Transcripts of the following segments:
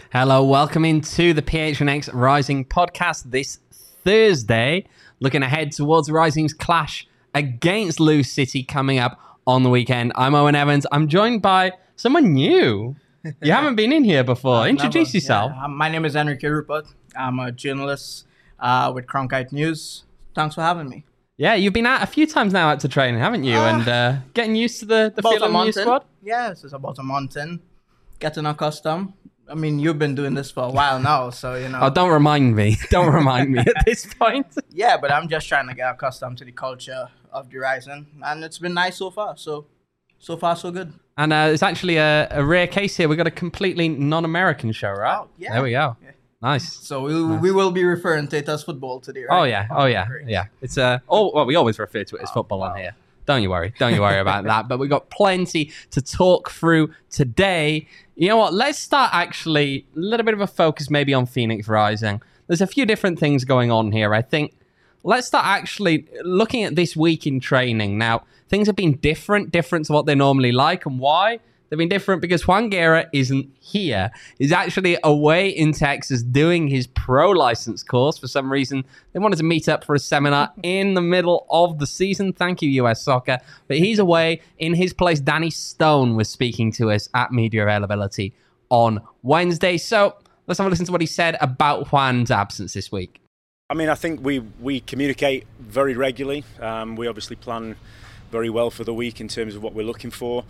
Hello, welcome into the PHNX Rising podcast this Thursday. Looking ahead towards Rising's clash against Lewes City coming up on the weekend. I'm Owen Evans. I'm joined by someone new. You haven't been in here before. Introduce yourself. Yeah. My name is Enrique Rupert. I'm a journalist with Cronkite News. Thanks for having me. Yeah, you've been out a few times now out to training, haven't you? And getting used to the feel of the new squad? Yes, it's about a month in. Getting accustomed. I mean, you've been doing this for a while now, so, you know. Oh, don't remind me. Don't remind me at this point. Yeah, but I'm just trying to get accustomed to the culture of the Rising, and it's been nice so far. So far, so good. And it's actually a rare case here. We've got a completely non-American show, right? Oh, yeah. There we go. Yeah. Nice. So we will be referring to it as football today, right? Oh yeah. Yeah. It's we always refer to it as football on here. Don't you worry about that. But we've got plenty to talk through today. You know what? Let's start actually a little bit of a focus maybe on Phoenix Rising. There's a few different things going on here. I think let's start actually looking at this week in training. Now, things have been different to what they normally like. And why? They've been different because Juan Guerra isn't here. He's actually away in Texas doing his pro license course. For some reason, they wanted to meet up for a seminar in the middle of the season. Thank you, US Soccer. But he's away. In his place, Danny Stone was speaking to us at Media Availability on Wednesday. So let's have a listen to what he said about Juan's absence this week. I mean, I think we communicate very regularly. We obviously plan very well for the week in terms of what we're looking for.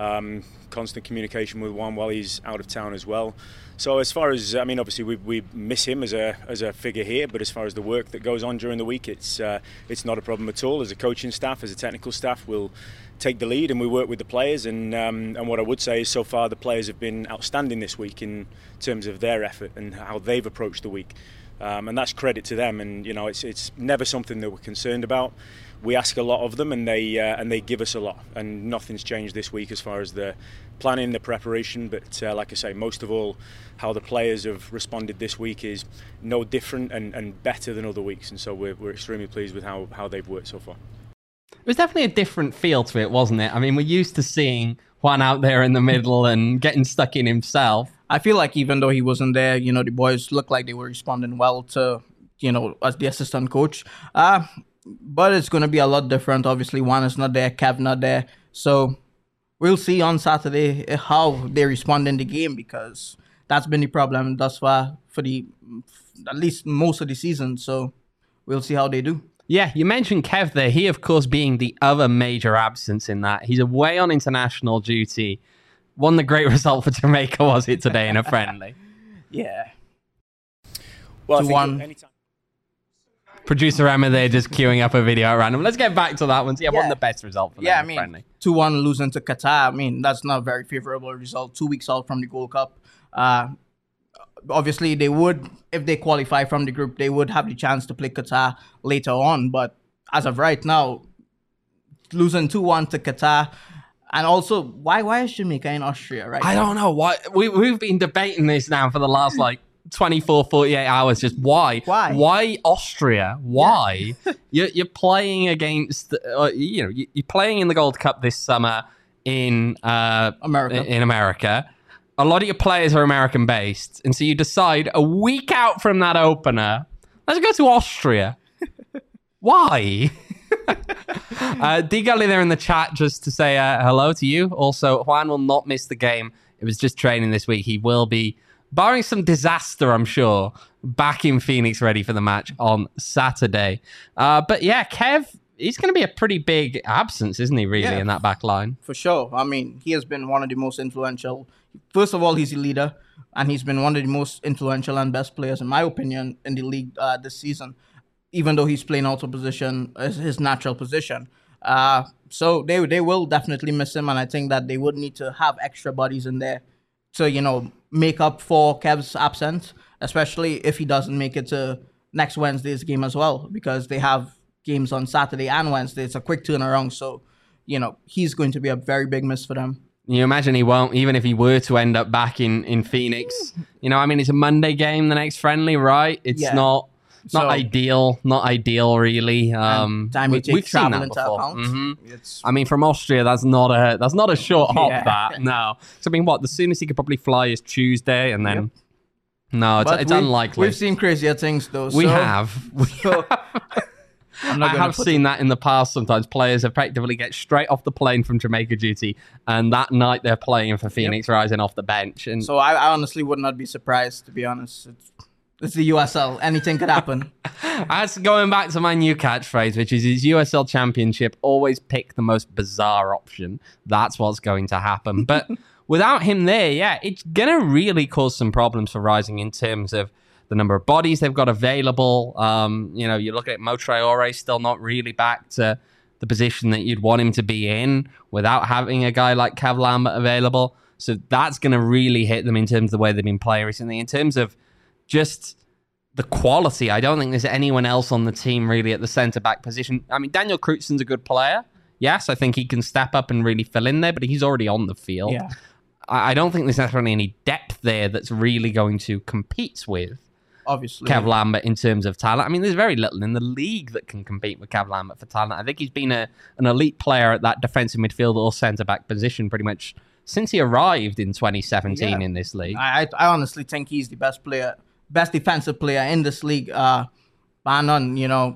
Constant communication with Juan while he's out of town as well. So as far as, I mean, obviously we miss him as a figure here, but as far as the work that goes on during the week, it's not a problem at all. As a coaching staff, as a technical staff, we'll take the lead and we work with the players. And what I would say is so far the players have been outstanding this week in terms of their effort and how they've approached the week. And that's credit to them. And you know, it's never something that we're concerned about. We ask a lot of them, and they give us a lot. And nothing's changed this week as far as the planning, the preparation. But like I say, most of all, how the players have responded this week is no different and better than other weeks. And so we're extremely pleased with how they've worked so far. It was definitely a different feel to it, wasn't it? I mean, we're used to seeing Juan out there in the middle and getting stuck in himself. I feel like even though he wasn't there, you know, the boys looked like they were responding well to, you know, as the assistant coach. But it's going to be a lot different. Obviously, Juan is not there, Kev not there. So we'll see on Saturday how they respond in the game, because that's been the problem thus far for at least most of the season. So we'll see how they do. Yeah, you mentioned Kev there. He, of course, being the other major absence in that. He's away on international duty. Won the great result for Jamaica, was it, today in a friendly? Yeah. Well, I think anytime. Producer Emma there just queuing up a video at random. Let's get back to that one. Yeah, won the best result for them. Yeah, I mean, 2-1 losing to Qatar. I mean, that's not a very favorable result. 2 weeks out from the Gold Cup. Obviously, they would, if they qualify from the group, they would have the chance to play Qatar later on. But as of right now, losing 2-1 to Qatar. And also, why is Jamaica in Austria, right? I don't know. Why we've been debating this now for the last, 24, 48 hours. Just why? Why Austria? Why? Yeah. You're playing against, you're playing in the Gold Cup this summer in America. A lot of your players are American based. And so you decide a week out from that opener, let's go to Austria. Why? D Gully there in the chat just to say hello to you. Also, Juan will not miss the game. It was just training this week. He will be, barring some disaster, I'm sure, back in Phoenix ready for the match on Saturday. But yeah, Kev, he's going to be a pretty big absence, isn't he, really, in that back line? For sure. I mean, he has been one of the most influential. First of all, he's a leader, and he's been one of the most influential and best players, in my opinion, in the league this season, even though he's playing out of position, his natural position. So they will definitely miss him, and I think that they would need to have extra bodies in there to, make up for Kev's absence, especially if he doesn't make it to next Wednesday's game as well, because they have games on Saturday and Wednesday. It's a quick turnaround, so, he's going to be a very big miss for them. You imagine he won't, even if he were to end up back in Phoenix. It's a Monday game, the next friendly, right? It's not ideal, really. Time we take we've seen that before. I mean, from Austria, that's not a short hop. That no. So I mean, the soonest he could probably fly is Tuesday, and then No, But it's unlikely. We've seen crazier things, though. We so, have. so I'm not I gonna have put seen that in the past. Sometimes players effectively get straight off the plane from Jamaica duty, and that night they're playing for Phoenix Rising off the bench. And So I honestly would not be surprised, to be honest. It's the USL. Anything could happen. that's going back to my new catchphrase, which is USL Championship. Always pick the most bizarre option. That's what's going to happen. But without him there, yeah, it's gonna really cause some problems for Rising in terms of the number of bodies they've got available. You look at Mo Traore, still not really back to the position that you'd want him to be in without having a guy like Kev Lambert available. So that's going to really hit them in terms of the way they've been playing recently. In terms of just the quality, I don't think there's anyone else on the team really at the centre-back position. I mean, Daniel Kreutzen's a good player. Yes, I think he can step up and really fill in there, but he's already on the field. Yeah. I don't think there's necessarily any depth there that's really going to compete with Obviously. Kev Lambert in terms of talent. I mean, there's very little in the league that can compete with Kev Lambert for talent. I think he's been an elite player at that defensive midfield or centre-back position pretty much since he arrived in 2017 in this league. I honestly think he's the best defensive player in this league. Bar none,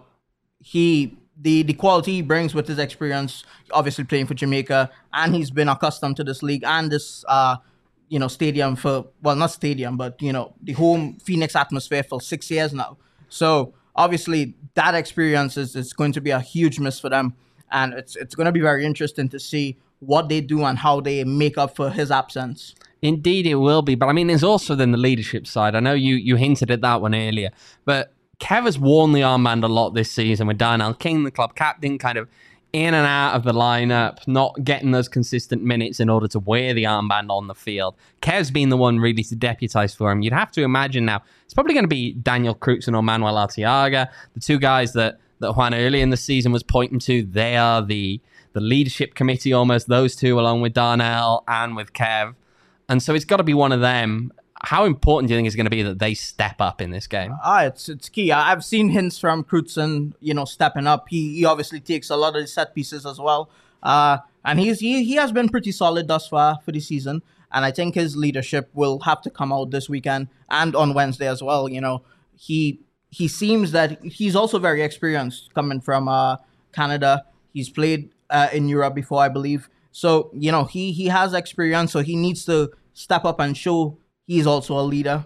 the quality he brings with his experience, obviously playing for Jamaica, and he's been accustomed to this league and this stadium not stadium, but the home Phoenix atmosphere for 6 years now. So obviously that experience is going to be a huge miss for them, and it's going to be very interesting to see what they do and how they make up for his absence. Indeed, it will be. But I mean, there's also then the leadership side. I know you hinted at that one earlier, but Kev has worn the armband a lot this season with Darnell King, the club captain, kind of in and out of the lineup, not getting those consistent minutes in order to wear the armband on the field. Kev's been the one really to deputise for him. You'd have to imagine now it's probably going to be Daniel Kreutzen or Manuel Arteaga, the two guys that Juan early in the season was pointing to. They are the leadership committee almost, those two, along with Darnell and with Kev. And so it's got to be one of them. How important do you think it's going to be that they step up in this game? It's key. I've seen hints from Kreutzen, stepping up. He obviously takes a lot of the set pieces as well. And he has been pretty solid thus far for the season. And I think his leadership will have to come out this weekend and on Wednesday as well. He seems that he's also very experienced coming from Canada. He's played in Europe before, I believe. So, he has experience, so he needs to step up and show he's also a leader,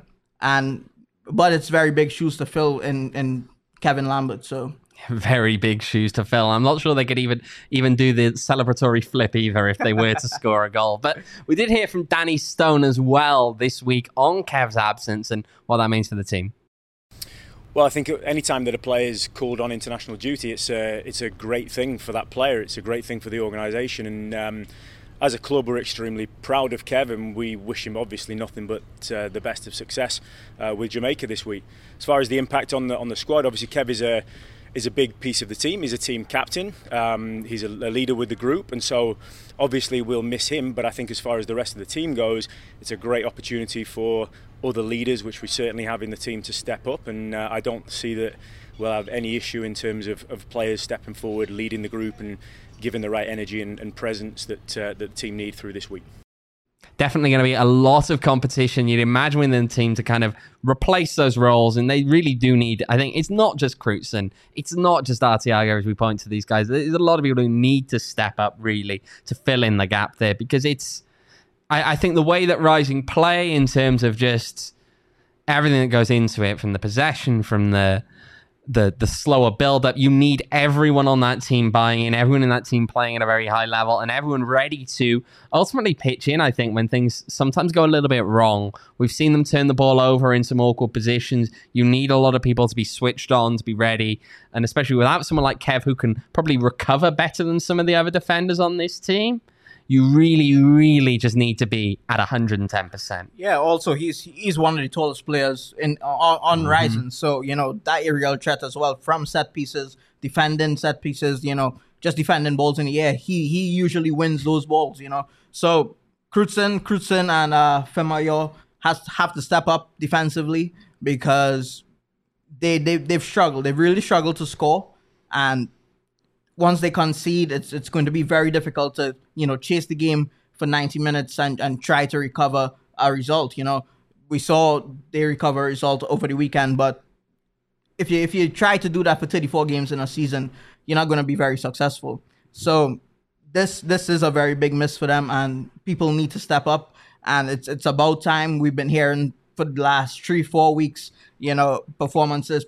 but it's very big shoes to fill in Kevin Lambert. So very big shoes to fill. I'm not sure they could even do the celebratory flip either if they were to score a goal. But we did hear from Danny Stone as well this week on Kev's absence and what that means for the team. Well, I think any time that a player is called on international duty, it's a great thing for that player. It's a great thing for the organisation, and as a club, we're extremely proud of Kev, and we wish him obviously nothing but the best of success with Jamaica this week. As far as the impact on the squad, obviously Kev is a big piece of the team. He's a team captain. He's a leader with the group, and so obviously we'll miss him. But I think as far as the rest of the team goes, it's a great opportunity for other leaders, which we certainly have in the team, to step up. And I don't see that we'll have any issue in terms of players stepping forward, leading the group, and giving the right energy and presence that the team need through this week. Definitely going to be a lot of competition. You'd imagine within the team to kind of replace those roles, and they really do need, I think it's not just Kreutzen, it's not just Arteaga as we point to these guys. There's a lot of people who need to step up really to fill in the gap there, because I think the way that Rising play in terms of just everything that goes into it, from the possession, from the slower build-up, you need everyone on that team buying in, everyone in that team playing at a very high level, and everyone ready to ultimately pitch in, I think, when things sometimes go a little bit wrong. We've seen them turn the ball over in some awkward positions. You need a lot of people to be switched on, to be ready, and especially without someone like Kev, who can probably recover better than some of the other defenders on this team, you really, really just need to be at 110%. Yeah, also he's one of the tallest players on Rising, so that aerial threat as well from set pieces, defending set pieces, just defending balls in the air. He usually wins those balls, So Kreutzen and Femayo have to step up defensively, because they've struggled. They've really struggled to score, and once they concede, it's going to be very difficult to chase the game for 90 minutes and try to recover a result. we saw they recover result over the weekend, but if you try to do that for 34 games in a season, you're not going to be very successful. So this is a very big miss for them, and people need to step up. And it's about time. We've been hearing for the last 3-4 weeks, performances.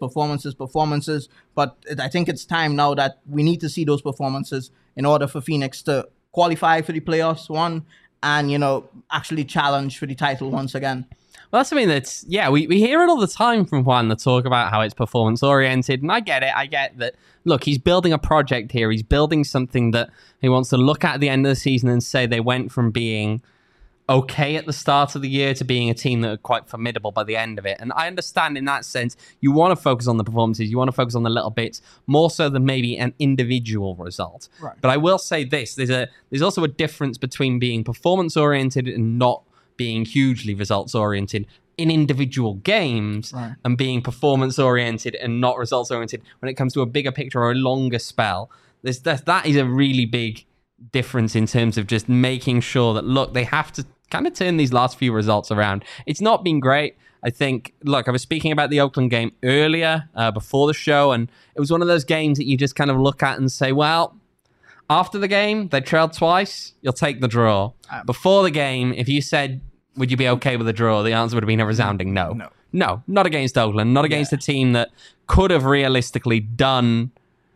But I think it's time now that we need to see those performances in order for Phoenix to qualify for the playoffs, one, and actually challenge for the title once again. Well, that's something that's, we hear it all the time from Juan, the talk about how it's performance-oriented, and I get it. I get that, look, he's building a project here. He's building something that he wants to look at the end of the season and say they went from being okay at the start of the year to being a team that are quite formidable by the end of it. And I understand in that sense, you want to focus on the performances, you want to focus on the little bits, more so than maybe an individual result. Right. But I will say this, there's also a difference between being performance-oriented and not being hugely results-oriented in individual games, right, and being performance-oriented and not results-oriented when it comes to a bigger picture or a longer spell. That is a really big difference in terms of just making sure that, look, they have to kind of turn these last few results around. It's not been great. I think, look, I was speaking about the Oakland game earlier, before the show, and it was one of those games that you just kind of look at and say, well, after the game, they trailed twice, you'll take the draw. Before the game, if you said, would you be okay with a draw? The answer would have been a resounding no. No, not against Oakland, not against a team that could have realistically done,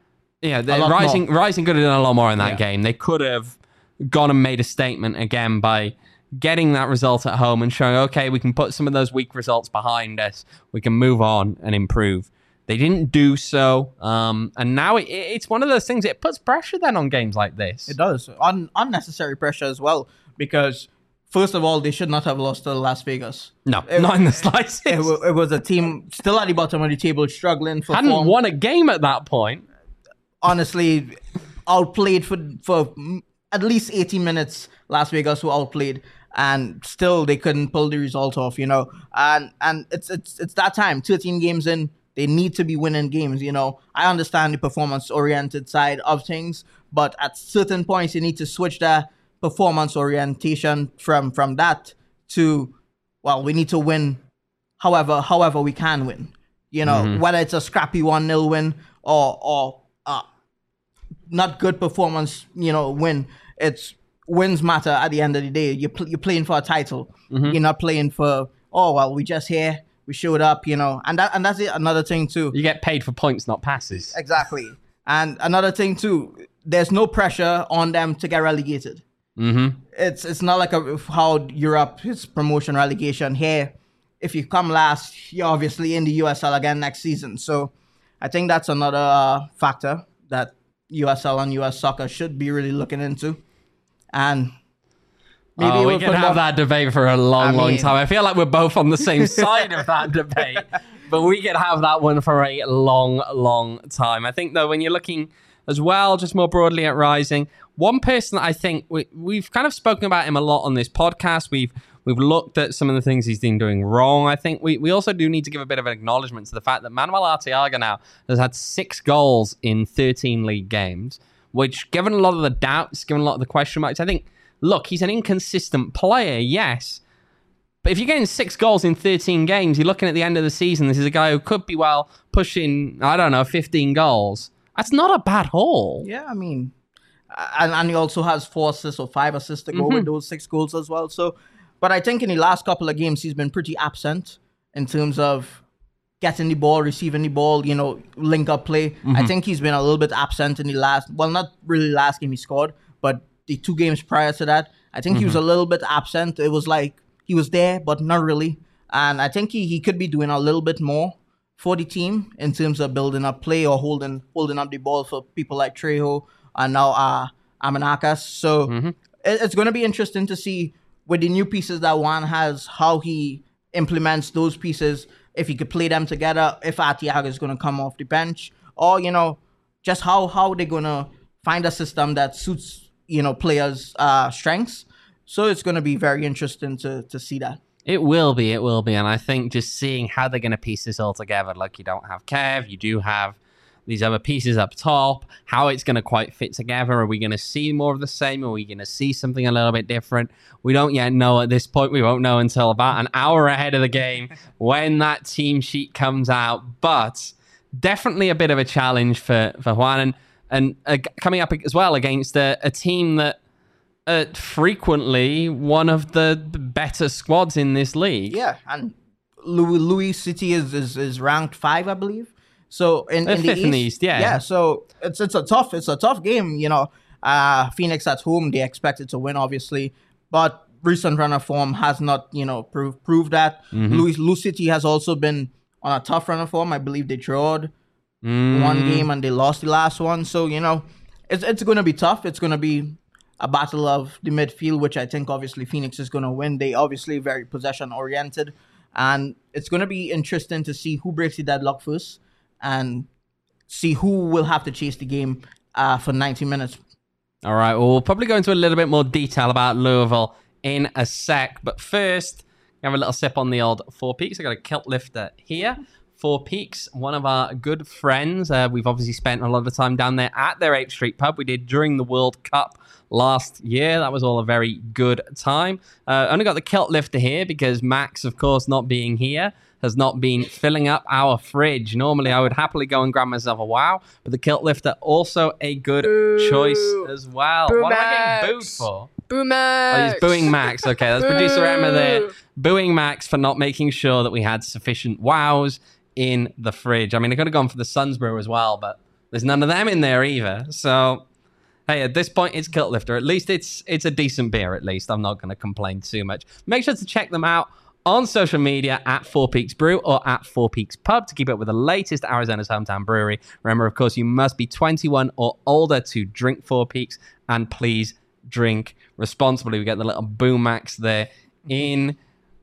Rising could have done a lot more in that game. They could have gone and made a statement again by getting that result at home and showing, okay, we can put some of those weak results behind us. We can move on and improve. They didn't do so. And now it's one of those things, it puts pressure then on games like this. It does. Unnecessary pressure as well, because first of all, they should not have lost to Las Vegas. No, not in the slightest. It was a team still at the bottom of the table, struggling for hadn't form. Won a game at that point. Honestly, outplayed for at least 18 minutes. Las Vegas were outplayed, and still they couldn't pull the result off. And it's that time. 13 games in, they need to be winning games. I understand the performance-oriented side of things, but at certain points you need to switch their performance orientation from that to, well, we need to win however we can win. Whether it's a scrappy 1-0 win or not good performance, win. It's wins matter at the end of the day. You're playing for a title. Mm-hmm. You're not playing for, we just here, we showed up, and that's it. Another thing too. You get paid for points, not passes. Exactly. And another thing too, there's no pressure on them to get relegated. Mm-hmm. It's not like how Europe is promotion relegation. Here, if you come last, you're obviously in the USL again next season. So I think that's another factor that USL and US soccer should be really looking into. And maybe we can have that debate for a long time. I feel like we're both on the same side of that debate, but we could have that one for a long time. I think, though, when you're looking as well, just more broadly at Rising, one person that I think we've kind of spoken about him a lot on this podcast. We've looked at some of the things he's been doing wrong. I think we also do need to give a bit of an acknowledgement to the fact that Manuel Arteaga now has had 6 goals in 13 league games, which, given a lot of the doubts, given a lot of the question marks, I think, look, he's an inconsistent player, yes. But if you're getting 6 goals in 13 games, you're looking at the end of the season, this is a guy who could be, pushing, 15 goals. That's not a bad haul. Yeah, I mean, and he also has 4 assists or 5 assists to go with those 6 goals as well. So, but I think in the last couple of games, he's been pretty absent in terms of getting the ball, receiving the ball, link up play. Mm-hmm. I think he's been a little bit absent in the not really last game he scored, but the 2 games prior to that. I think he was a little bit absent. It was like he was there, but not really. And I think he could be doing a little bit more for the team in terms of building up play or holding up the ball for people like Trejo and now Amanakas. So it's going to be interesting to see with the new pieces that Juan has, how he implements those pieces, if he could play them together, if Arteaga is going to come off the bench, or, just how they're going to find a system that suits, players' strengths. So it's going to be very interesting to see that. It will be. And I think just seeing how they're going to piece this all together, like you don't have Kev, you do have, these other pieces up top, how it's going to quite fit together. Are we going to see more of the same? Are we going to see something a little bit different? We don't yet know at this point. We won't know until about an hour ahead of the game when that team sheet comes out. But definitely a bit of a challenge for Juan. And coming up as well against a team that frequently one of the better squads in this league. Yeah, and Louis City is ranked 5, I believe. So in the fifth in the East, yeah. Yeah, so it's a tough game, you know. Phoenix at home, they expected to win, obviously, but recent run of form has not, you know, proved that. Louis City has also been on a tough run of form. I believe they drawed one game and they lost the last one. So, you know, it's going to be tough. It's going to be a battle of the midfield, which I think obviously Phoenix is going to win. They obviously very possession oriented, and it's going to be interesting to see who breaks the deadlock first and see who will have to chase the game for 90 minutes. All right, well, we'll probably go into a little bit more detail about Louisville in a sec. But first, have a little sip on the old Four Peaks. I got a kilt lifter here. Four Peaks, one of our good friends. We've obviously spent a lot of time down there at their 8th Street pub. We did during the World Cup last year. That was all a very good time. Only got the kilt lifter here because Max, of course, not being here, has not been filling up our fridge. Normally, I would happily go and grab myself a wow, but the kilt lifter also a good choice as well. Boo what Max. am I getting booed for? Boo Max. Oh, he's booing Max. Okay, that's producer Emma there booing Max for not making sure that we had sufficient wows in the fridge. I mean, I could have gone for the Suns brew as well, but there's none of them in there either. So, hey, at this point, it's Kilt Lifter. At least it's a decent beer, at least. I'm not going to complain too much. Make sure to check them out on social media at Four Peaks Brew or at Four Peaks Pub to keep up with the latest Arizona's hometown brewery. Remember, of course, you must be 21 or older to drink Four Peaks, and please drink responsibly. We get the little boom max there in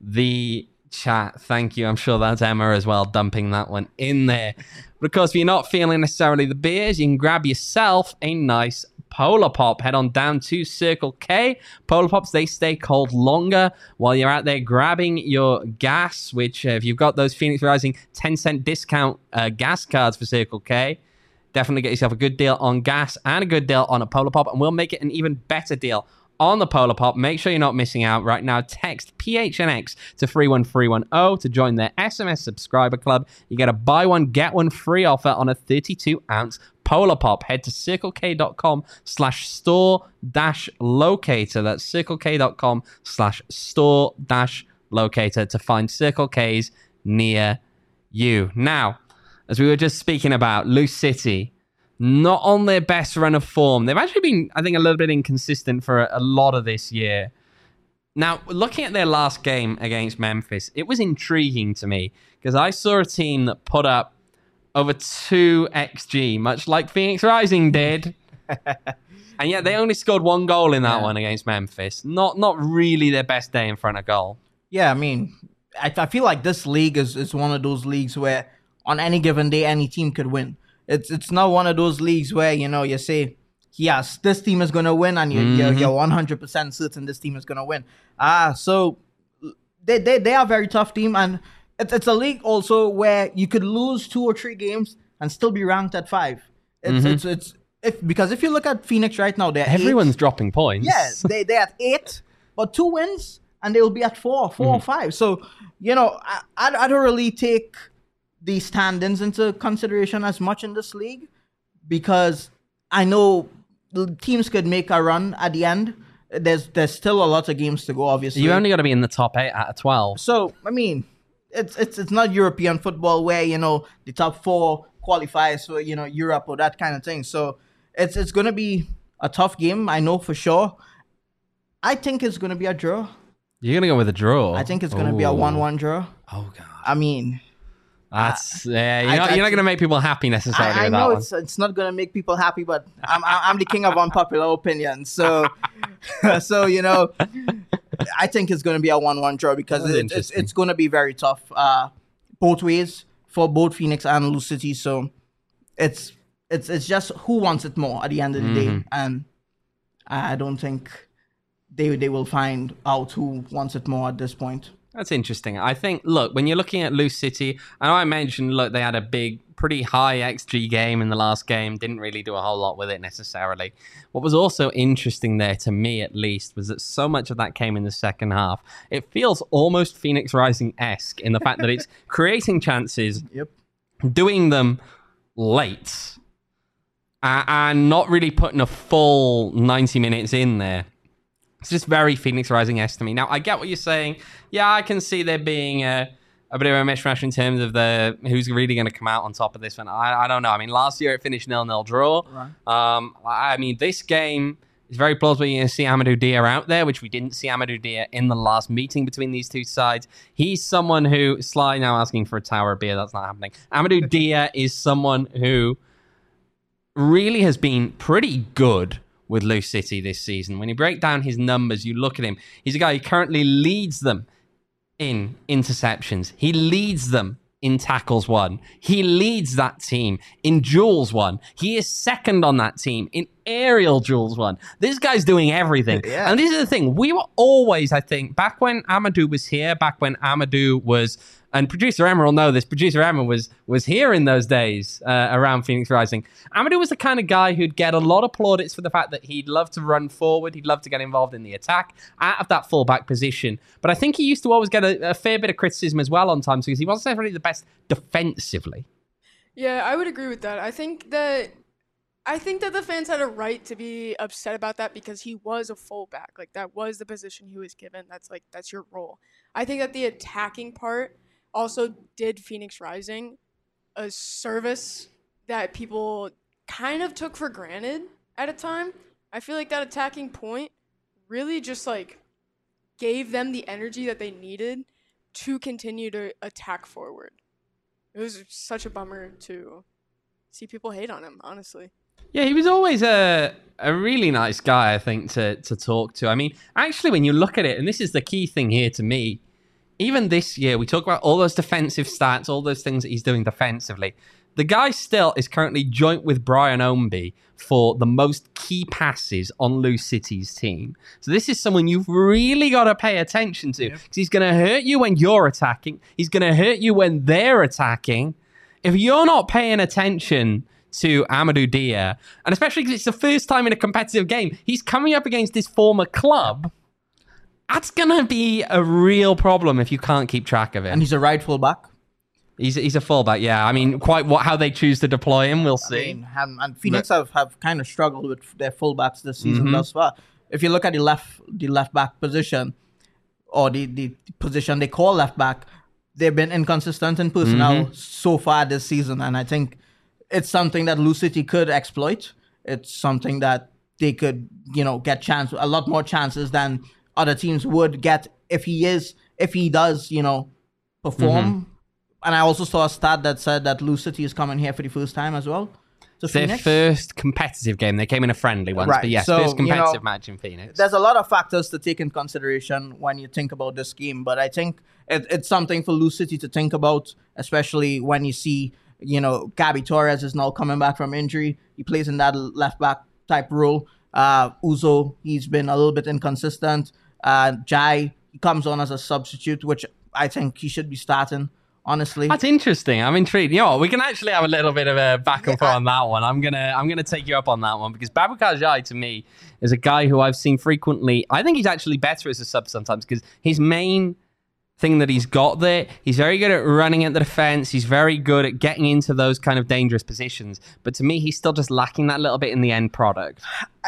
the chat. Thank you. I'm sure that's Emma as well, dumping that one in there. But of course, if you're not feeling necessarily the beers, you can grab yourself a nice Polar Pop. Head on down to Circle K. Polar Pops, they stay cold longer while you're out there grabbing your gas, which if you've got those Phoenix Rising 10-cent discount gas cards for Circle K, definitely get yourself a good deal on gas and a good deal on a Polar Pop, and we'll make it an even better deal on the Polar Pop. Make sure you're not missing out right now. Text PHNX to 31310 to join their SMS subscriber club. You get a buy one, get one free offer on a 32-ounce Polar Pop. Head to circlek.com/store-locator. That's circlek.com/store-locator to find Circle K's near you. Now, as we were just speaking about, Loose City, not on their best run of form. They've actually been, I think, a little bit inconsistent for a lot of this year. Now, looking at their last game against Memphis, it was intriguing to me because I saw a team that put up over 2 XG, much like Phoenix Rising did. And yet they only scored 1 goal in that one against Memphis. Not really their best day in front of goal. Yeah, I mean, I feel like this league is one of those leagues where on any given day, any team could win. It's not one of those leagues where, you know, you say, yes, this team is going to win, and you're 100% certain this team is going to win. So they are a very tough team, and it's a league also where you could lose 2 or 3 games and still be ranked at 5. Because if you look at Phoenix right now, everyone's dropping points. Yes, they're at 8, but 2 wins, and they'll be at 4 or 5. So, you know, I don't really take the standings into consideration as much in this league, because I know teams could make a run at the end. There's still a lot of games to go, obviously. You only got to be in the top 8 out of 12. So, I mean, it's not European football where, you know, the top 4 qualifies for, you know, Europe or that kind of thing. So it's going to be a tough game, I know for sure. I think it's going to be a draw. You're going to go with a draw? I think it's going to be a 1-1 draw. Oh, God. I mean, that's you're not going to make people happy necessarily. I know it's not going to make people happy, but I'm the king of unpopular opinions. So so, you know, I think it's going to be a 1-1 draw because it's going to be very tough both ways for both Phoenix and Loose City. So it's just who wants it more at the end of the day, and I don't think they will find out who wants it more at this point. That's interesting. I think, look, when you're looking at Loose City, I know I mentioned, look, they had a pretty high XG game in the last game, didn't really do a whole lot with it necessarily. What was also interesting there, to me at least, was that so much of that came in the second half. It feels almost Phoenix Rising-esque in the fact that it's creating chances, doing them late, and not really putting a full 90 minutes in there. It's just very Phoenix Rising-esque to me. Now, I get what you're saying. Yeah, I can see there being a bit of a mishmash in terms of who's really going to come out on top of this one. I don't know. I mean, last year it finished 0-0 draw. Right. I mean, this game is very plausible you're going to see Amadou Dia out there, which we didn't see Amadou Dia in the last meeting between these two sides. He's someone who... Sly now asking for a tower of beer. That's not happening. Amadou Dia is someone who really has been pretty good with Loose City this season. When you break down his numbers, you look at him. He's a guy who currently leads them in interceptions. He leads them in tackles won. He leads that team in duels won. He is second on that team in aerial duels won. This guy's doing everything. Yeah. And this is the thing. We were always, I think, back when Amadou was here, back when Amadou was... And Producer Emma will know this. Producer Emma was here in those days around Phoenix Rising. Amadou was the kind of guy who'd get a lot of plaudits for the fact that he'd love to run forward. He'd love to get involved in the attack out of that fullback position. But I think he used to always get a fair bit of criticism as well on times because he wasn't necessarily the best defensively. Yeah, I would agree with that. I think that the fans had a right to be upset about that because he was a fullback. Like, that was the position he was given. That's your role. I think that the attacking part also did Phoenix Rising a service that people kind of took for granted at a time. I feel like that attacking point really just gave them the energy that they needed to continue to attack forward. It was such a bummer to see people hate on him, honestly. Yeah, he was always a really nice guy, I think, to talk to. I mean, actually, when you look at it, and this is the key thing here to me, even this year, we talk about all those defensive stats, all those things that he's doing defensively. The guy still is currently joint with Brian Ownby for the most key passes on Loose City's team. So this is someone you've really got to pay attention to because he's going to hurt you when you're attacking. He's going to hurt you when they're attacking. If you're not paying attention to Amadou Dia, and especially because it's the first time in a competitive game, he's coming up against his former club. That's going to be a real problem if you can't keep track of it. And he's a right fullback. He's a fullback, yeah. I mean, how they choose to deploy him, we'll see. And Phoenix have kind of struggled with their fullbacks this season thus far. If you look at the left back position, or the position they call left back, they've been inconsistent in personnel so far this season. And I think it's something that Loose City could exploit. It's something that they could, get a lot more chances than other teams would get if he does, perform. And I also saw a stat that said that Loose City is coming here for the first time as well. It's their first competitive game. They came in a friendly once, but yes, first competitive match in Phoenix. There's a lot of factors to take in consideration when you think about this game, but I think it's something for Loose City to think about, especially when you see, Gabby Torres is now coming back from injury. He plays in that left back type role. Uzo, he's been a little bit inconsistent. Jai, he comes on as a substitute, which I think he should be starting, honestly. That's interesting. I'm intrigued. You know what? We can actually have a little bit of a back and forth on that one. I'm gonna take you up on that one because Baboucarr Jai, to me, is a guy who I've seen frequently. I think he's actually better as a sub sometimes because his main thing that he's got there, he's very good at running at the defense. He's very good at getting into those kind of dangerous positions. But to me, he's still just lacking that little bit in the end product.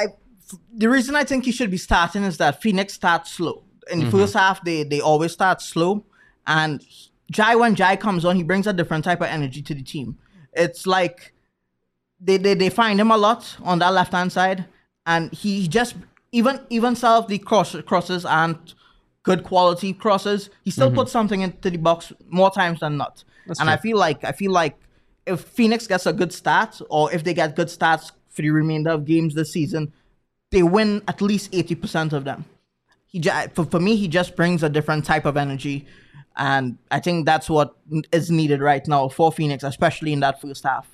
The reason I think he should be starting is that Phoenix starts slow. In the first half, they always start slow. And when Jai comes on, he brings a different type of energy to the team. It's like they find him a lot on that left-hand side. And he just, even self the crosses and good quality crosses, he still puts something into the box more times than not. That's true. I feel like if Phoenix gets a good start, or if they get good starts for the remainder of games this season, they win at least 80% of them. For me, he just brings a different type of energy. And I think that's what is needed right now for Phoenix, especially in that first half.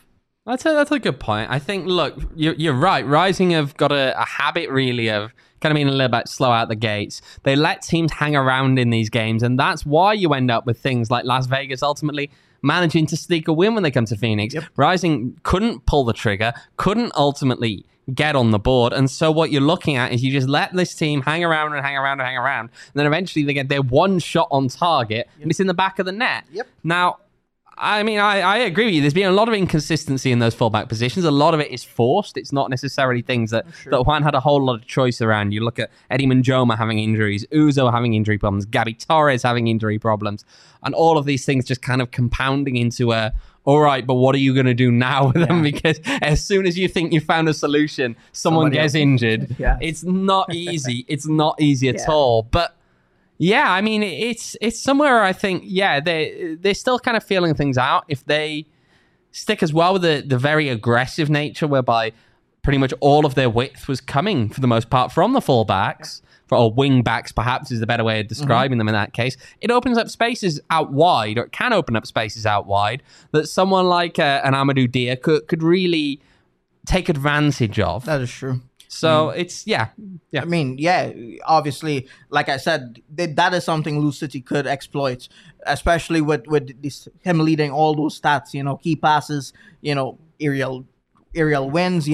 That's a good point. I think, look, you're right. Rising have got a habit really of kind of being a little bit slow out the gates. They let teams hang around in these games, and that's why you end up with things like Las Vegas ultimately managing to sneak a win when they come to Phoenix. Yep. Rising couldn't pull the trigger, couldn't ultimately get on the board, and so what you're looking at is you just let this team hang around and hang around and hang around, and then eventually they get their one shot on target, and it's in the back of the net. Yep. Now, I mean, I agree with you. There's been a lot of inconsistency in those fullback positions. A lot of it is forced. It's not necessarily things that Juan had a whole lot of choice around. You look at Eddie Manjoma having injuries, Uzo having injury problems, Gabby Torres having injury problems, and all of these things just kind of compounding into all right, but what are you going to do now with them? Because as soon as you think you found a solution, someone gets injured. Yeah. It's not easy. It's not easy at all. But yeah, I mean, it's somewhere I think, they're still kind of feeling things out. If they stick as well with the very aggressive nature whereby pretty much all of their width was coming, for the most part, from the fullbacks, or wing backs perhaps is the better way of describing them in that case, it opens up spaces out wide, or it can open up spaces out wide, that someone like an Amadou Dia could really take advantage of. That is true. So it's, I mean, obviously, like I said, that is something Lou City could exploit, especially with him leading all those stats, key passes, aerial wins,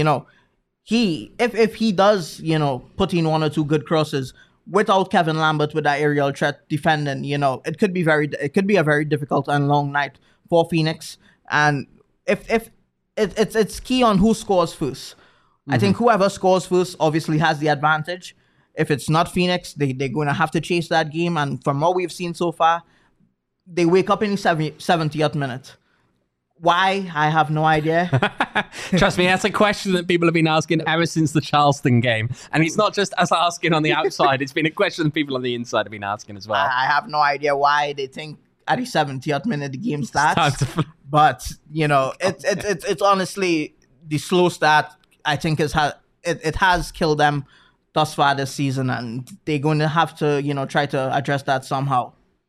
if he does, put in one or two good crosses without Kevin Lambert with that aerial threat defending, it could be a very difficult and long night for Phoenix. And if it's key on who scores first. I think whoever scores first obviously has the advantage. If it's not Phoenix, they're going to have to chase that game. And from what we've seen so far, they wake up in the 70th minute. Why? I have no idea. Trust me, that's a question that people have been asking ever since the Charleston game. And it's not just us asking on the outside. It's been a question that people on the inside have been asking as well. I have no idea why they think at the 70th minute the game starts. But, it's honestly the slow start, I think it has killed them thus far this season, and they're going to have to, try to address that somehow.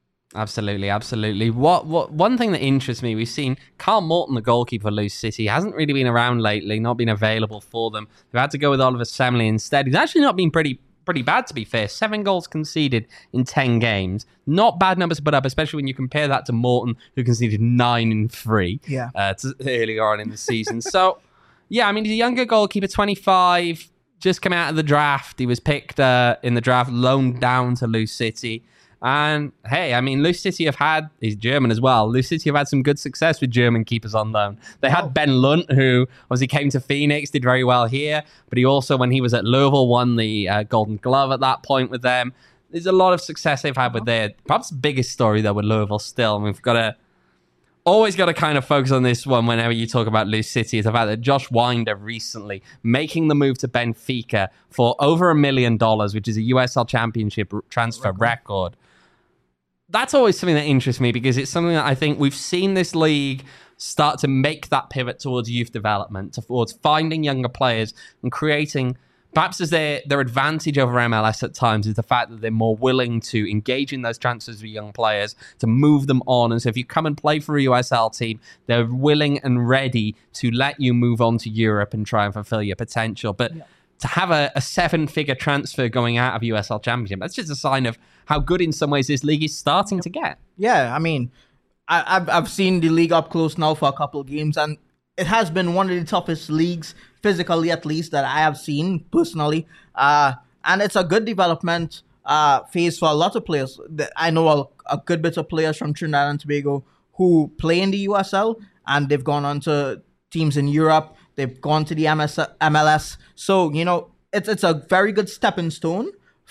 Absolutely. What one thing that interests me, we've seen Carl Morton, the goalkeeper for Lose City, hasn't really been around lately, not been available for them. They've had to go with Oliver Semley instead. He's actually not been pretty bad, to be fair. 7 goals conceded in 10 games. Not bad numbers to put up, especially when you compare that to Morton, who conceded 9 in 3 earlier on in the season. So, yeah, I mean, he's a younger goalkeeper, 25, just come out of the draft. He was picked in the draft, loaned down to Lose City. And hey, I mean, Lose City he's German as well. Lose City have had some good success with German keepers on loan. They had Ben Lunt, who obviously came to Phoenix, did very well here, but he also, when he was at Louisville, won the Golden Glove at that point with them. There's a lot of success they've had with their, perhaps the biggest story though with Louisville still, and we've always got to kind of focus on this one whenever you talk about Lose City, is the fact that Josh Winder recently making the move to Benfica for over $1 million, which is a USL Championship transfer record. That's always something that interests me, because it's something that I think we've seen this league start to make that pivot towards youth development, towards finding younger players and creating, perhaps as their advantage over MLS at times, is the fact that they're more willing to engage in those transfers with young players, to move them on. And so if you come and play for a USL team, they're willing and ready to let you move on to Europe and try and fulfill your potential. But to have a 7-figure transfer going out of USL Championship, that's just a sign of how good in some ways this league is starting to get. Yeah, I mean, I've seen the league up close now for a couple of games, and it has been one of the toughest leagues, physically at least, that I have seen personally. And it's a good development phase for a lot of players. I know a good bit of players from Trinidad and Tobago who play in the USL, and they've gone on to teams in Europe. They've gone to the MLS. So, it's a very good stepping stone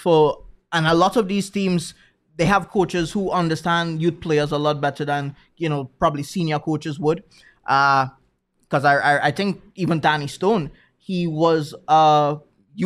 and a lot of these teams, they have coaches who understand youth players a lot better than, probably senior coaches would. Because I think even Danny Stone, he was he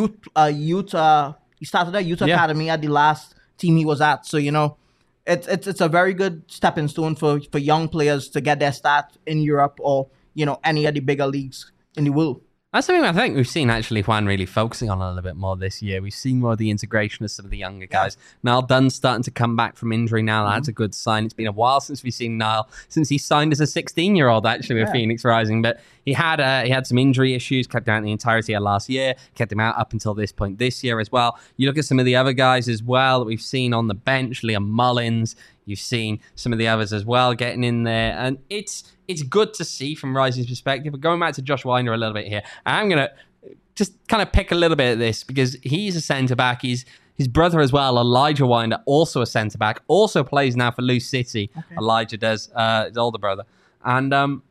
started a youth academy at the last team he was at. So, it's a very good stepping stone for young players to get their start in Europe or, any of the bigger leagues in the world. That's something I think we've seen actually Juan really focusing on a little bit more this year. We've seen more of the integration of some of the younger guys. Niall Dunn's starting to come back from injury now. That's a good sign. It's been a while since we've seen Niall, since he signed as a 16-year-old actually with Phoenix Rising. But he had some injury issues, kept out the entirety of last year, kept him out up until this point this year as well. You look at some of the other guys as well that we've seen on the bench, Liam Mullins. You've seen some of the others as well getting in there. And it's good to see from Rising's perspective. But going back to Josh Winder a little bit here, I'm going to just kind of pick a little bit of this because he's a centre-back. His brother as well, Elijah Winder, also a centre-back, also plays now for Loose City. Okay. Elijah does, his older brother. And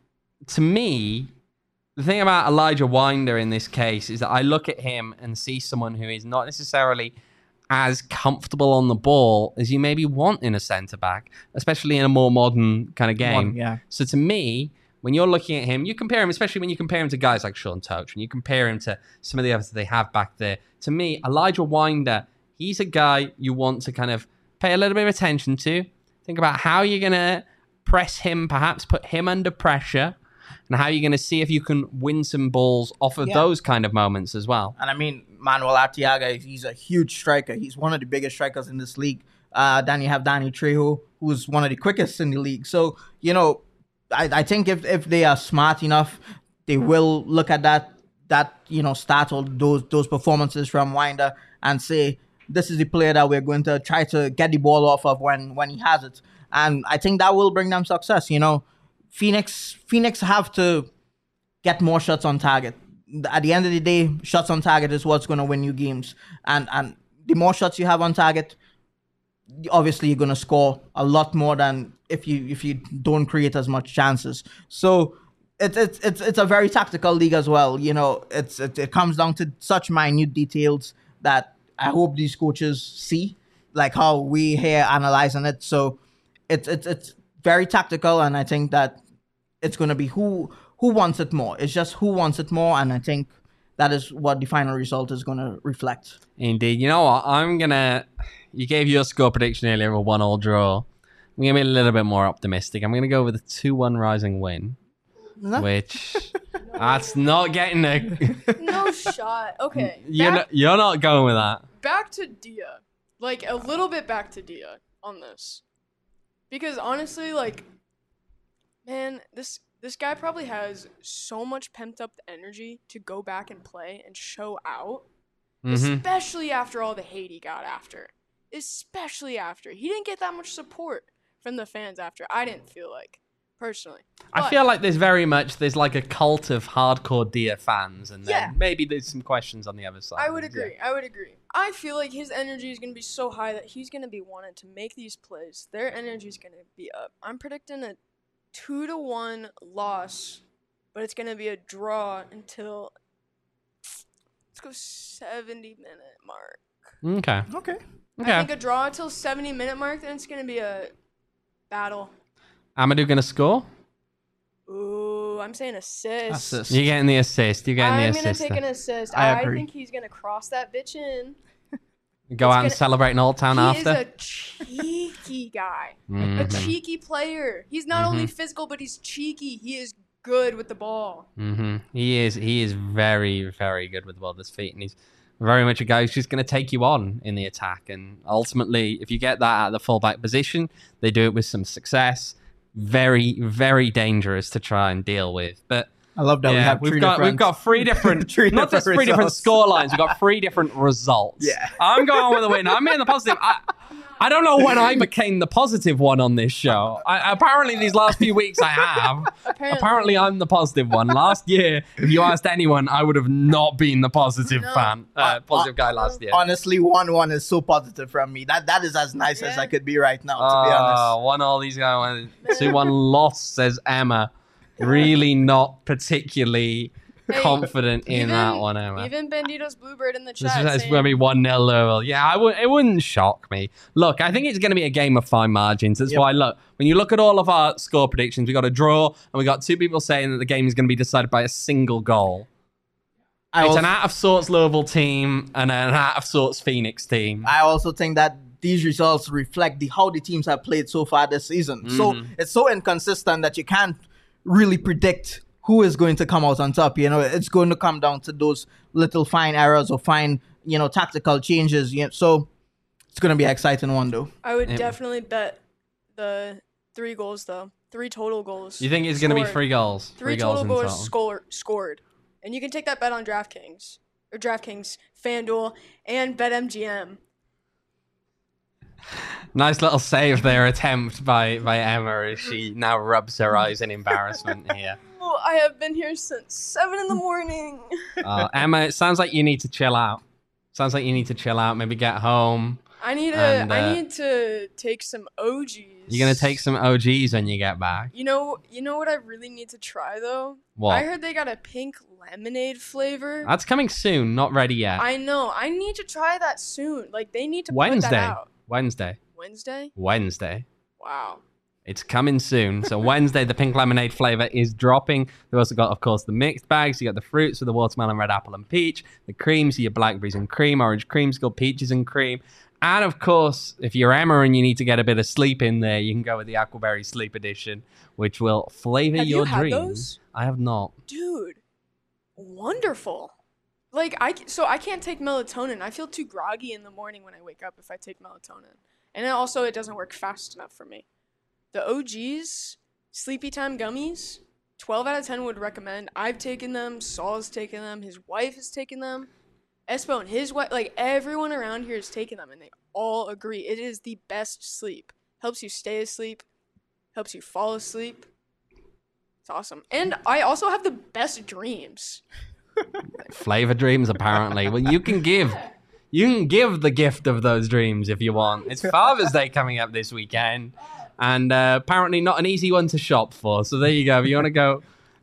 to me, the thing about Elijah Winder in this case is that I look at him and see someone who is not necessarily as comfortable on the ball as you maybe want in a centre-back, especially in a more modern kind of game. So to me, when you're looking at him, you compare him, especially when you compare him to guys like Sean Toach, when you compare him to some of the others that they have back there. To me, Elijah Winder, he's a guy you want to kind of pay a little bit of attention to. Think about how you're going to press him, perhaps put him under pressure, and how you're going to see if you can win some balls off of those kind of moments as well. And I mean, Manuel Arteaga, he's a huge striker. He's one of the biggest strikers in this league. Then you have Danny Trejo, who's one of the quickest in the league. So, you know, I think if they are smart enough, they will look at that start all those performances from Winder and say, this is the player that we're going to try to get the ball off of when he has it. And I think that will bring them success. You know, Phoenix have to get more shots on target. At the end of the day, shots on target is what's going to win you games. And the more shots you have on target, obviously you're going to score a lot more than if you don't create as much chances. So it's a very tactical league as well. You know, it comes down to such minute details that I hope these coaches see, like how we here analyzing it. So it's very tactical, and I think that it's going to be who wants it more. It's just who wants it more, and I think that is what the final result is going to reflect. Indeed. You know what? You gave your score prediction earlier of a 1-1 draw. I'm going to be a little bit more optimistic. I'm going to go with a 2-1 Rising win, which that's not getting a... No shot. Okay. You're not going with that. Back to Dia. Like, a little bit back to Dia on this. Because honestly, like, man, this guy probably has so much pent up energy to go back and play and show out, especially after all the hate he got after. Especially after. He didn't get that much support from the fans after. I didn't feel like, personally. I feel like there's like a cult of hardcore Dia fans, and then maybe there's some questions on the other side. I would agree. I feel like his energy is going to be so high that he's going to be wanting to make these plays. Their energy is going to be up. I'm predicting a 2-1 loss, but it's going to be a draw until, let's go 70-minute mark. Okay. I think a draw until 70-minute mark, then it's going to be a battle. Amadou going to score? Ooh, I'm saying assist. You're getting the assist. I'm going to take an assist. I agree. think he's going to cross that bitch in. Go out and celebrate in Old Town after? He is a cheeky guy. A cheeky player. He's not only physical, but he's cheeky. He is good with the ball. He is very, very good with the ball at his feet, and he's very much a guy who's just going to take you on in the attack. And ultimately, if you get that at the fullback position, they do it with some success. Very, very dangerous to try and deal with. But I love that we've got three different not just three different score lines, we've got three different results. Yeah. I'm going with a win. I'm in the positive. I don't know when I became the positive one on this show. Apparently these last few weeks I have. Apparently I'm the positive one. Last year, if you asked anyone, I would have not been the positive positive guy last year. Honestly, 1-1 is so positive from me. That is as nice as I could be right now, to be honest. 1-1 these guys. 2-1 loss, says Emma. Really not particularly confident in that one, Emma. Even Bandito's Bluebird in the chat. It's going to be 1-0 Louisville. Yeah, it wouldn't shock me. Look, I think it's going to be a game of fine margins. That's why, look, when you look at all of our score predictions, we got a draw, and we got two people saying that the game is going to be decided by a single goal. It's an out-of-sorts Louisville team and an out-of-sorts Phoenix team. I also think that these results reflect how the teams have played so far this season. So it's so inconsistent that you can't really predict who is going to come out on top. It's going to come down to those little fine errors or fine, tactical changes. So it's going to be an exciting one, though. I would definitely bet the 3 goals, though. 3 total goals. You think it's going to be 3 goals? 3 total goals scored. And you can take that bet on DraftKings, FanDuel, and BetMGM. Nice little save there attempt by Emma as she now rubs her eyes in embarrassment here. Well, I have been here since 7 in the morning. Emma, it sounds like you need to chill out. Maybe get home. I need to take some OGs. You're gonna take some OGs when you get back. You know what I really need to try though? What? I heard they got a pink lemonade flavor. That's coming soon, not ready yet. I know. I need to try that soon. Like they need to put that out. Wednesday. Wow. It's coming soon. So Wednesday, the pink lemonade flavor is dropping. We've also got, of course, the mixed bags. You got the fruits with the watermelon, red apple, and peach. The creams, your blackberries and cream, orange creamsicle, peaches and cream. And of course, if you're Emma and you need to get a bit of sleep in there, you can go with the Aquaberry Sleep Edition, which will flavor your dreams. Have you had those? I have not. Dude, wonderful. Like I can't take melatonin. I feel too groggy in the morning when I wake up if I take melatonin. And it doesn't work fast enough for me. The OGs, Sleepy Time gummies, 12 out of 10 would recommend. I've taken them. Saul's taken them. His wife has taken them. Espo and his wife, like everyone around here has taken them, and they all agree it is the best sleep. Helps you stay asleep. Helps you fall asleep. It's awesome. And I also have the best dreams. Flavor dreams, apparently. Well, you can give the gift of those dreams if you want. It's Father's Day coming up this weekend, and apparently not an easy one to shop for. So there you go. If you want to go,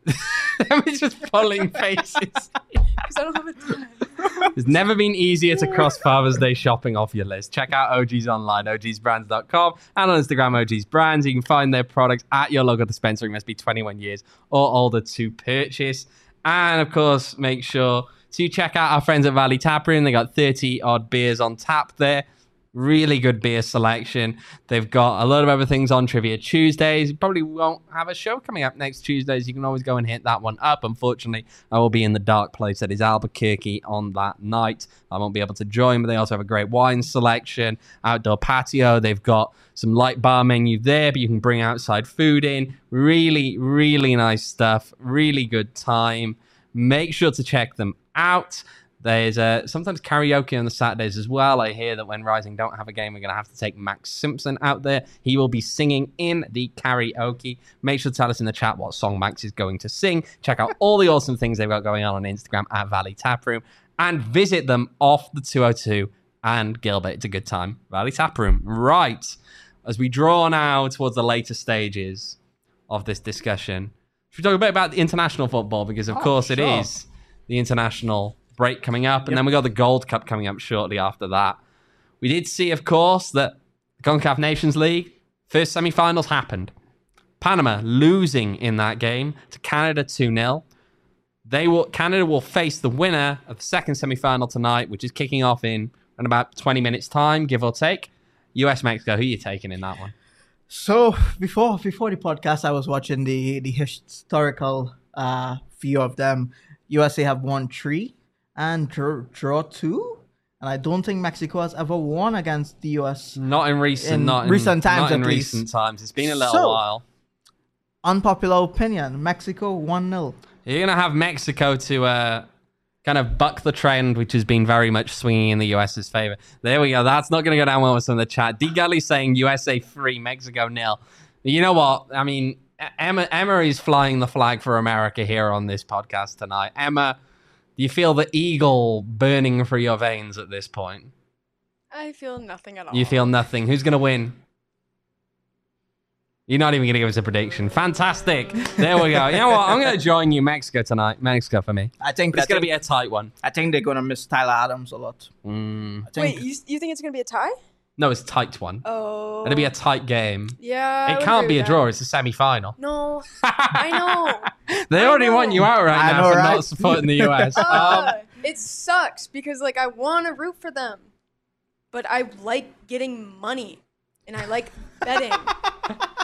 I'm just pulling faces. Because I don't have a time. It's never been easier to cross Father's Day shopping off your list. Check out OGs online, ogsbrands.com, and on Instagram, OGs Brands. You can find their products at your local dispensary. Must be 21 years or older to purchase. And of course, make sure to check out our friends at Valley Tap Room. They got 30 odd beers on tap there. Really good beer selection. They've got a lot of other things on Trivia Tuesdays. You probably won't have a show coming up next Tuesdays. You can always go and hit that one up. Unfortunately, I will be in the dark place that is Albuquerque on that night. I won't be able to join, but they also have a great wine selection, outdoor patio. They've got some light bar menu there, but you can bring outside food in. Really, really nice stuff. Really good time. Make sure to check them out. There's sometimes karaoke on the Saturdays as well. I hear that when Rising don't have a game, we're going to have to take Max Simpson out there. He will be singing in the karaoke. Make sure to tell us in the chat what song Max is going to sing. Check out all the awesome things they've got going on Instagram at Valley Tap Room. And visit them off the 202 and Gilbert. It's a good time. Valley Tap Room. Right. As we draw now towards the later stages of this discussion, should we talk a bit about the international football? Because, of course, it is the international break coming up, and then we got the Gold Cup coming up shortly after that. We did see, of course, that the CONCACAF Nations League first semi-finals happened. Panama losing in that game to Canada 2-0. Canada will face the winner of the second semi-final tonight, which is kicking off in about 20 minutes time, give or take. US-Mexico, who are you taking in that one? So before the podcast, I was watching the historical view of them. USA have won 3 and draw 2, and I don't think Mexico has ever won against the US. Not in recent times. It's been a little while. Unpopular opinion: Mexico 1-0. You're gonna have Mexico to kind of buck the trend, which has been very much swinging in the US's favor. There we go. That's not gonna go down well with some of the chat. D Gully saying USA 3, Mexico 0. You know what? I mean, Emma is flying the flag for America here on this podcast tonight. Emma, do you feel the eagle burning through your veins at this point? I feel nothing at all. You feel nothing. Who's going to win? You're not even going to give us a prediction. Fantastic. There we go. You know what? I'm going to join you, Mexico, tonight. Mexico for me. I think it's going to be a tight one. I think they're going to miss Tyler Adams a lot. Wait, you think it's going to be a tie? No, it's a tight one. Oh. It'll be a tight game. Yeah. It can't be a draw. It's a semi-final. No. I know. They already want you out right now for not supporting the US. It sucks because, like, I want to root for them, but I like getting money, and I like betting.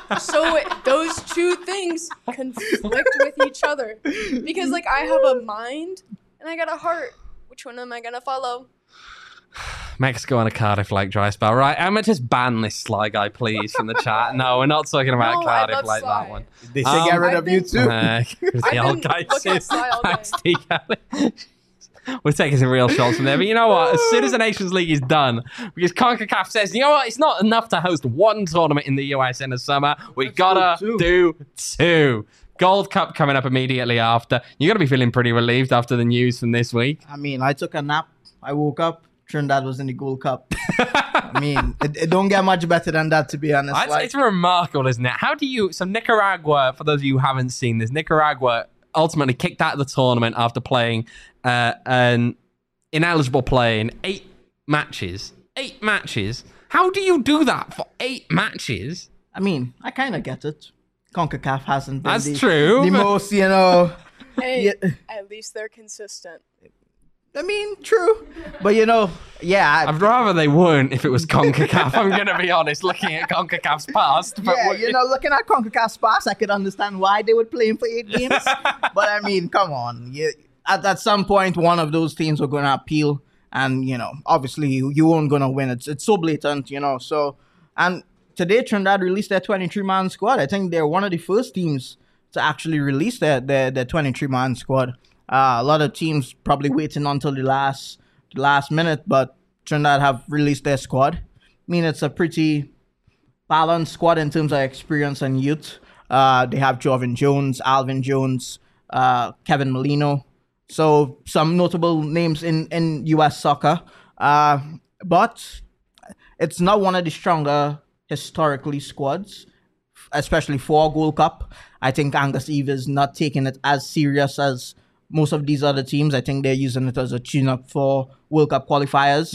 So those two things conflict with each other. Because, like, I have a mind and I got a heart. Which one am I going to follow? Mexico on a Cardiff like dry spell. Right, Emma, just ban this Sly guy, please, from the chat. No, we're not talking about No, I Cardiff love like Sly. that one. They should get rid I've of you been- too. The I've old been guy looking at Sly all day. Thanks, T. Kelly. We're taking some real shots from there. But you know what? As soon as the Nations League is done, because CONCACAF says, you know what? It's not enough to host one tournament in the US in the summer. We gotta do two. Gold Cup coming up immediately after. You gotta be feeling pretty relieved after the news from this week. I mean, I took a nap. I woke up. Trinidad was in the Gold Cup. I mean, it don't get much better than that, to be honest. It's remarkable, isn't it? How do you... So Nicaragua, for those of you who haven't seen this, Nicaragua ultimately kicked out of the tournament after playing an ineligible play in 8 matches. 8 matches? How do you do that for 8 matches? I mean, I kind of get it. CONCACAF hasn't been That's true. the most, you know... Hey, Yeah. at least they're consistent. I mean, true. But, you know, yeah. I'd rather they weren't if it was CONCACAF. I'm going to be honest, looking at CONCACAF's past. But Yeah, you know, looking at CONCACAF's past, I could understand why they would play him for 8 games. But, I mean, come on. At some point, one of those teams were going to appeal. And, you know, obviously, you weren't going to win. It's so blatant, you know. So, and today, Trinidad released their 23-man squad. I think they're one of the first teams to actually release their 23-man squad. A lot of teams probably waiting until the last minute, but Trinidad have released their squad. I mean, it's a pretty balanced squad in terms of experience and youth. They have Jovan Jones, Alvin Jones, Kevin Molino. So some notable names in U.S. soccer. But it's not one of the stronger historically squads, especially for Gold Cup. I think Angus Eve is not taking it as serious as most of these other teams. I think they're using it as a tune-up for World Cup qualifiers.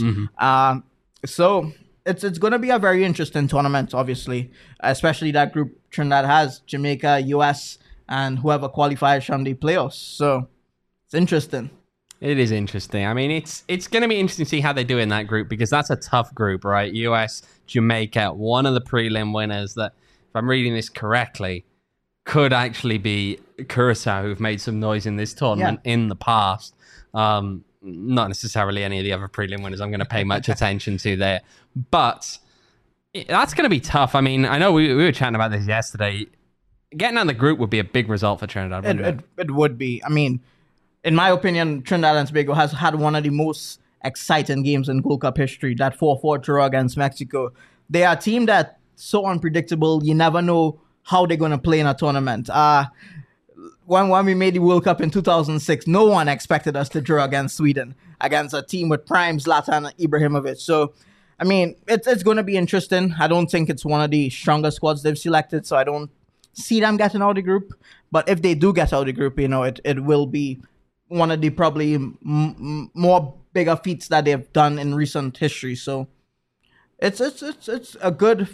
So it's going to be a very interesting tournament, obviously, especially that group Trinidad has, Jamaica, US, and whoever qualifies from the playoffs. So it's interesting. It is interesting. I mean, it's going to be interesting to see how they do in that group, because that's a tough group, right? US, Jamaica, one of the prelim winners that, if I'm reading this correctly, could actually be Curacao, who've made some noise in this tournament in the past. Not necessarily any of the other prelim winners I'm going to pay much attention to there. But that's going to be tough. I mean, I know we were chatting about this yesterday. Getting out of the group would be a big result for Trinidad, wouldn't it? It would be. I mean, in my opinion, Trinidad and Tobago has had one of the most exciting games in Gold Cup history, that 4-4 draw against Mexico. They are a team that's so unpredictable, you never know how they're going to play in a tournament. When we made the World Cup in 2006, no one expected us to draw against Sweden, against a team with prime Zlatan Ibrahimovic. So, I mean, it's going to be interesting. I don't think it's one of the strongest squads they've selected, so I don't see them getting out of the group. But if they do get out of the group, you know, it will be one of the probably more bigger feats that they've done in recent history. So, it's a good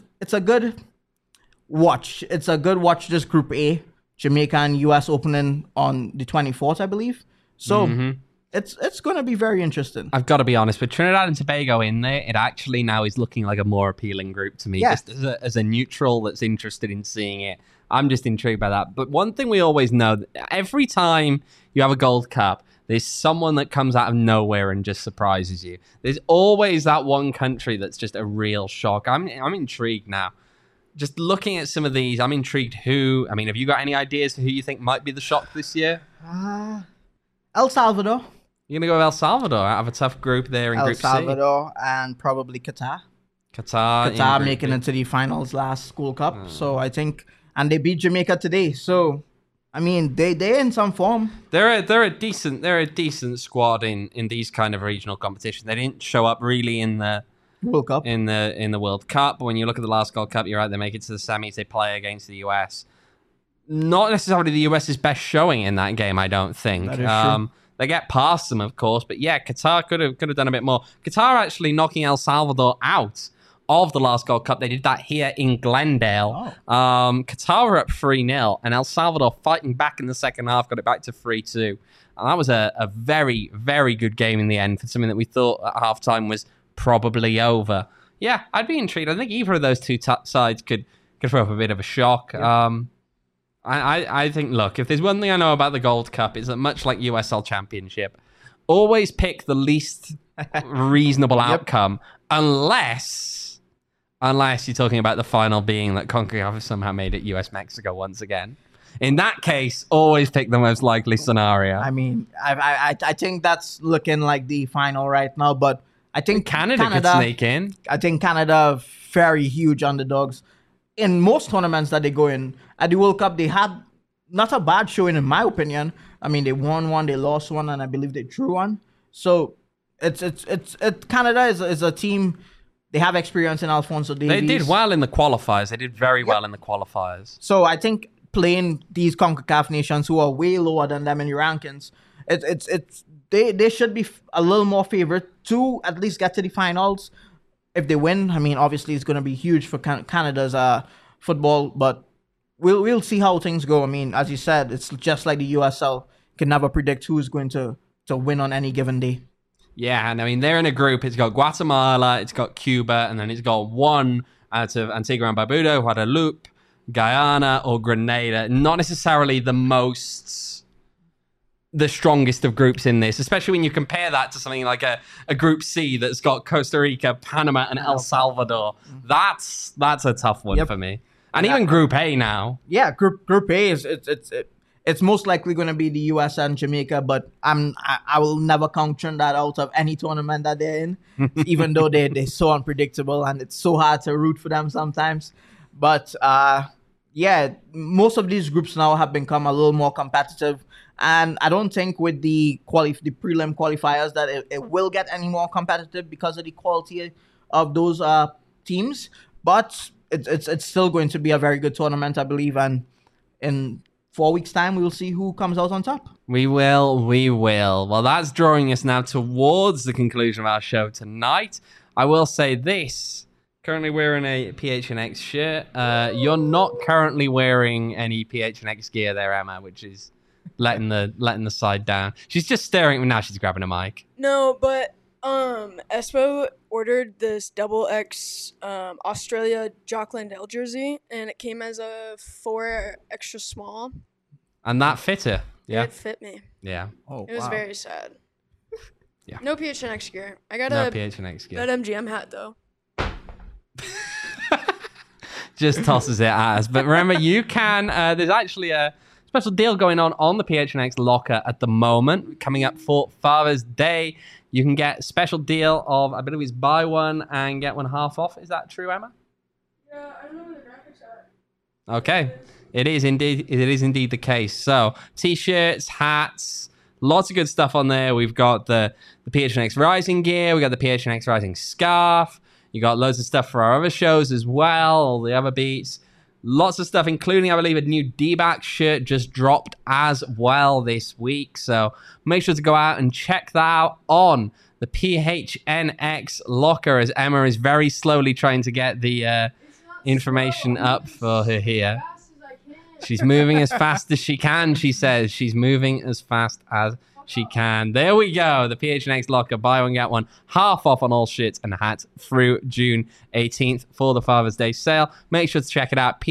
watch. It's a good watch, this Group A. Jamaica and US opening on the 24th, I believe. So it's going to be very interesting. I've got to be honest, with Trinidad and Tobago in there, it actually now is looking like a more appealing group to me. Yes. Just as a neutral that's interested in seeing it, I'm just intrigued by that. But one thing we always know, every time you have a Gold Cup, there's someone that comes out of nowhere and just surprises you. There's always that one country that's just a real shock. I'm intrigued now. Just looking at some of these, I'm intrigued have you got any ideas for who you think might be the shock this year? El Salvador. You're going to go with El Salvador out of a tough group there in El Group C. Salvador and probably Qatar. Qatar making it to the finals last Gold Cup. So I think, and they beat Jamaica today. So, I mean, they're in some form. They're a decent squad in these kind of regional competitions. They didn't show up really in the World Cup. in the World Cup, but when you look at the last Gold Cup, you're right, they make it to the semis, they play against the US. Not necessarily the US's best showing in that game, I don't think. That is true. They get past them, of course, but yeah, Qatar could have done a bit more. Qatar actually knocking El Salvador out of the last Gold Cup. They did that here in Glendale. Qatar were up 3-0, and El Salvador fighting back in the second half, got it back to 3-2. And that was a very, very good game in the end for something that we thought at halftime was probably over. Yeah, I'd be intrigued. I think either of those two sides could could throw up a bit of a shock. Yeah. I think, look, if there's one thing I know about the Gold Cup, is that much like USL Championship, always pick the least reasonable outcome, unless you're talking about the final being that CONCACAF have somehow made it US-Mexico once again. In that case, always pick the most likely scenario. I mean, I think that's looking like the final right now, but I think Canada could sneak in. I think Canada are very huge underdogs. In most tournaments that they go in, at the World Cup, they had not a bad showing, in my opinion. I mean, they won one, they lost one, and I believe they drew one. So it's Canada is a team. They have experience in Alphonso Davies. They did well in the qualifiers. They did very well in the qualifiers. So I think playing these CONCACAF nations who are way lower than them in the rankings, they should be a little more favored to at least get to the finals. If they win, I mean, obviously it's going to be huge for Canada's football, but we'll see how things go. I mean, as you said, it's just like the USL. You can never predict who's going to win on any given day. Yeah, and I mean, they're in a group. It's got Guatemala, it's got Cuba, and then it's got one out of Antigua and Barbuda, Guadeloupe, Guyana, or Grenada. Not necessarily the strongest of groups in this, especially when you compare that to something like a Group C that's got Costa Rica, Panama, and El Salvador. That's a tough one for me. And even Group A now. Yeah, Group A is it's most likely going to be the US and Jamaica, but I will never count that out of any tournament that they're in, even though they're so unpredictable and it's so hard to root for them sometimes. But yeah, most of these groups now have become a little more competitive. And I don't think with the prelim qualifiers that it will get any more competitive because of the quality of those teams. But it's still going to be a very good tournament, I believe. And in 4 weeks' time, we will see who comes out on top. We will. Well, that's drawing us now towards the conclusion of our show tonight. I will say this. Currently wearing a PHNX shirt. You're not currently wearing any PHNX gear there, Emma, which is letting the side down. She's just staring at me now. She's grabbing a mic. No, but Espo ordered this double X Australia Jock Landale jersey, and it came as a 4 extra small. And that fit her. Yeah. It fit me. Yeah. Oh, It was very sad. Yeah. No PHNX gear. I got No a PHNX gear. BetMGM hat though. Just tosses it at us. But remember, you can. There's actually a special deal going on the PHNX locker at the moment, coming up for Father's Day. You can get a special deal of, I believe it's buy one and get one half off. Is that true, Emma? Yeah, I don't know where the graphics are. Okay. It is indeed the case. So, t-shirts, hats, lots of good stuff on there. We've got the PHNX Rising gear. We got the PHNX Rising scarf. You got loads of stuff for our other shows as well, all the other beats. Lots of stuff, including, I believe, a new D-back shirt just dropped as well this week. So make sure to go out and check that out on the PHNX locker, as Emma is very slowly trying to get the information up for her here. She's moving as fast as she can, she says. She's moving as fast as she can. There we go. The PHNX locker. Buy one, get one. Half off on all shirts and hats through June 18th for the Father's Day sale. Make sure to check it out.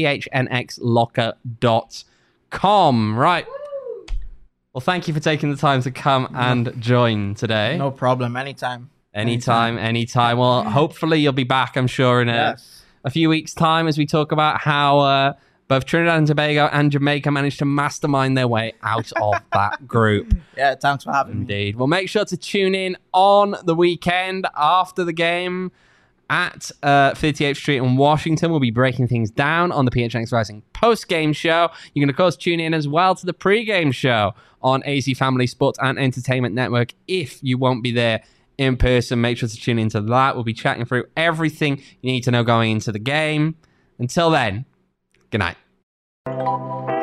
phnxlocker.com. Right. Well, thank you for taking the time to come and join today. No problem. Anytime. Well, hopefully you'll be back, I'm sure, in a few weeks' time as we talk about how both Trinidad and Tobago and Jamaica managed to mastermind their way out of that group. Yeah, thanks for having me. Indeed. Well, make sure to tune in on the weekend after the game at 58th Street in Washington. We'll be breaking things down on the PHNX Rising post-game show. You can, of course, tune in as well to the pre-game show on AZ Family Sports and Entertainment Network. If you won't be there in person, make sure to tune into that. We'll be chatting through everything you need to know going into the game. Until then, good night.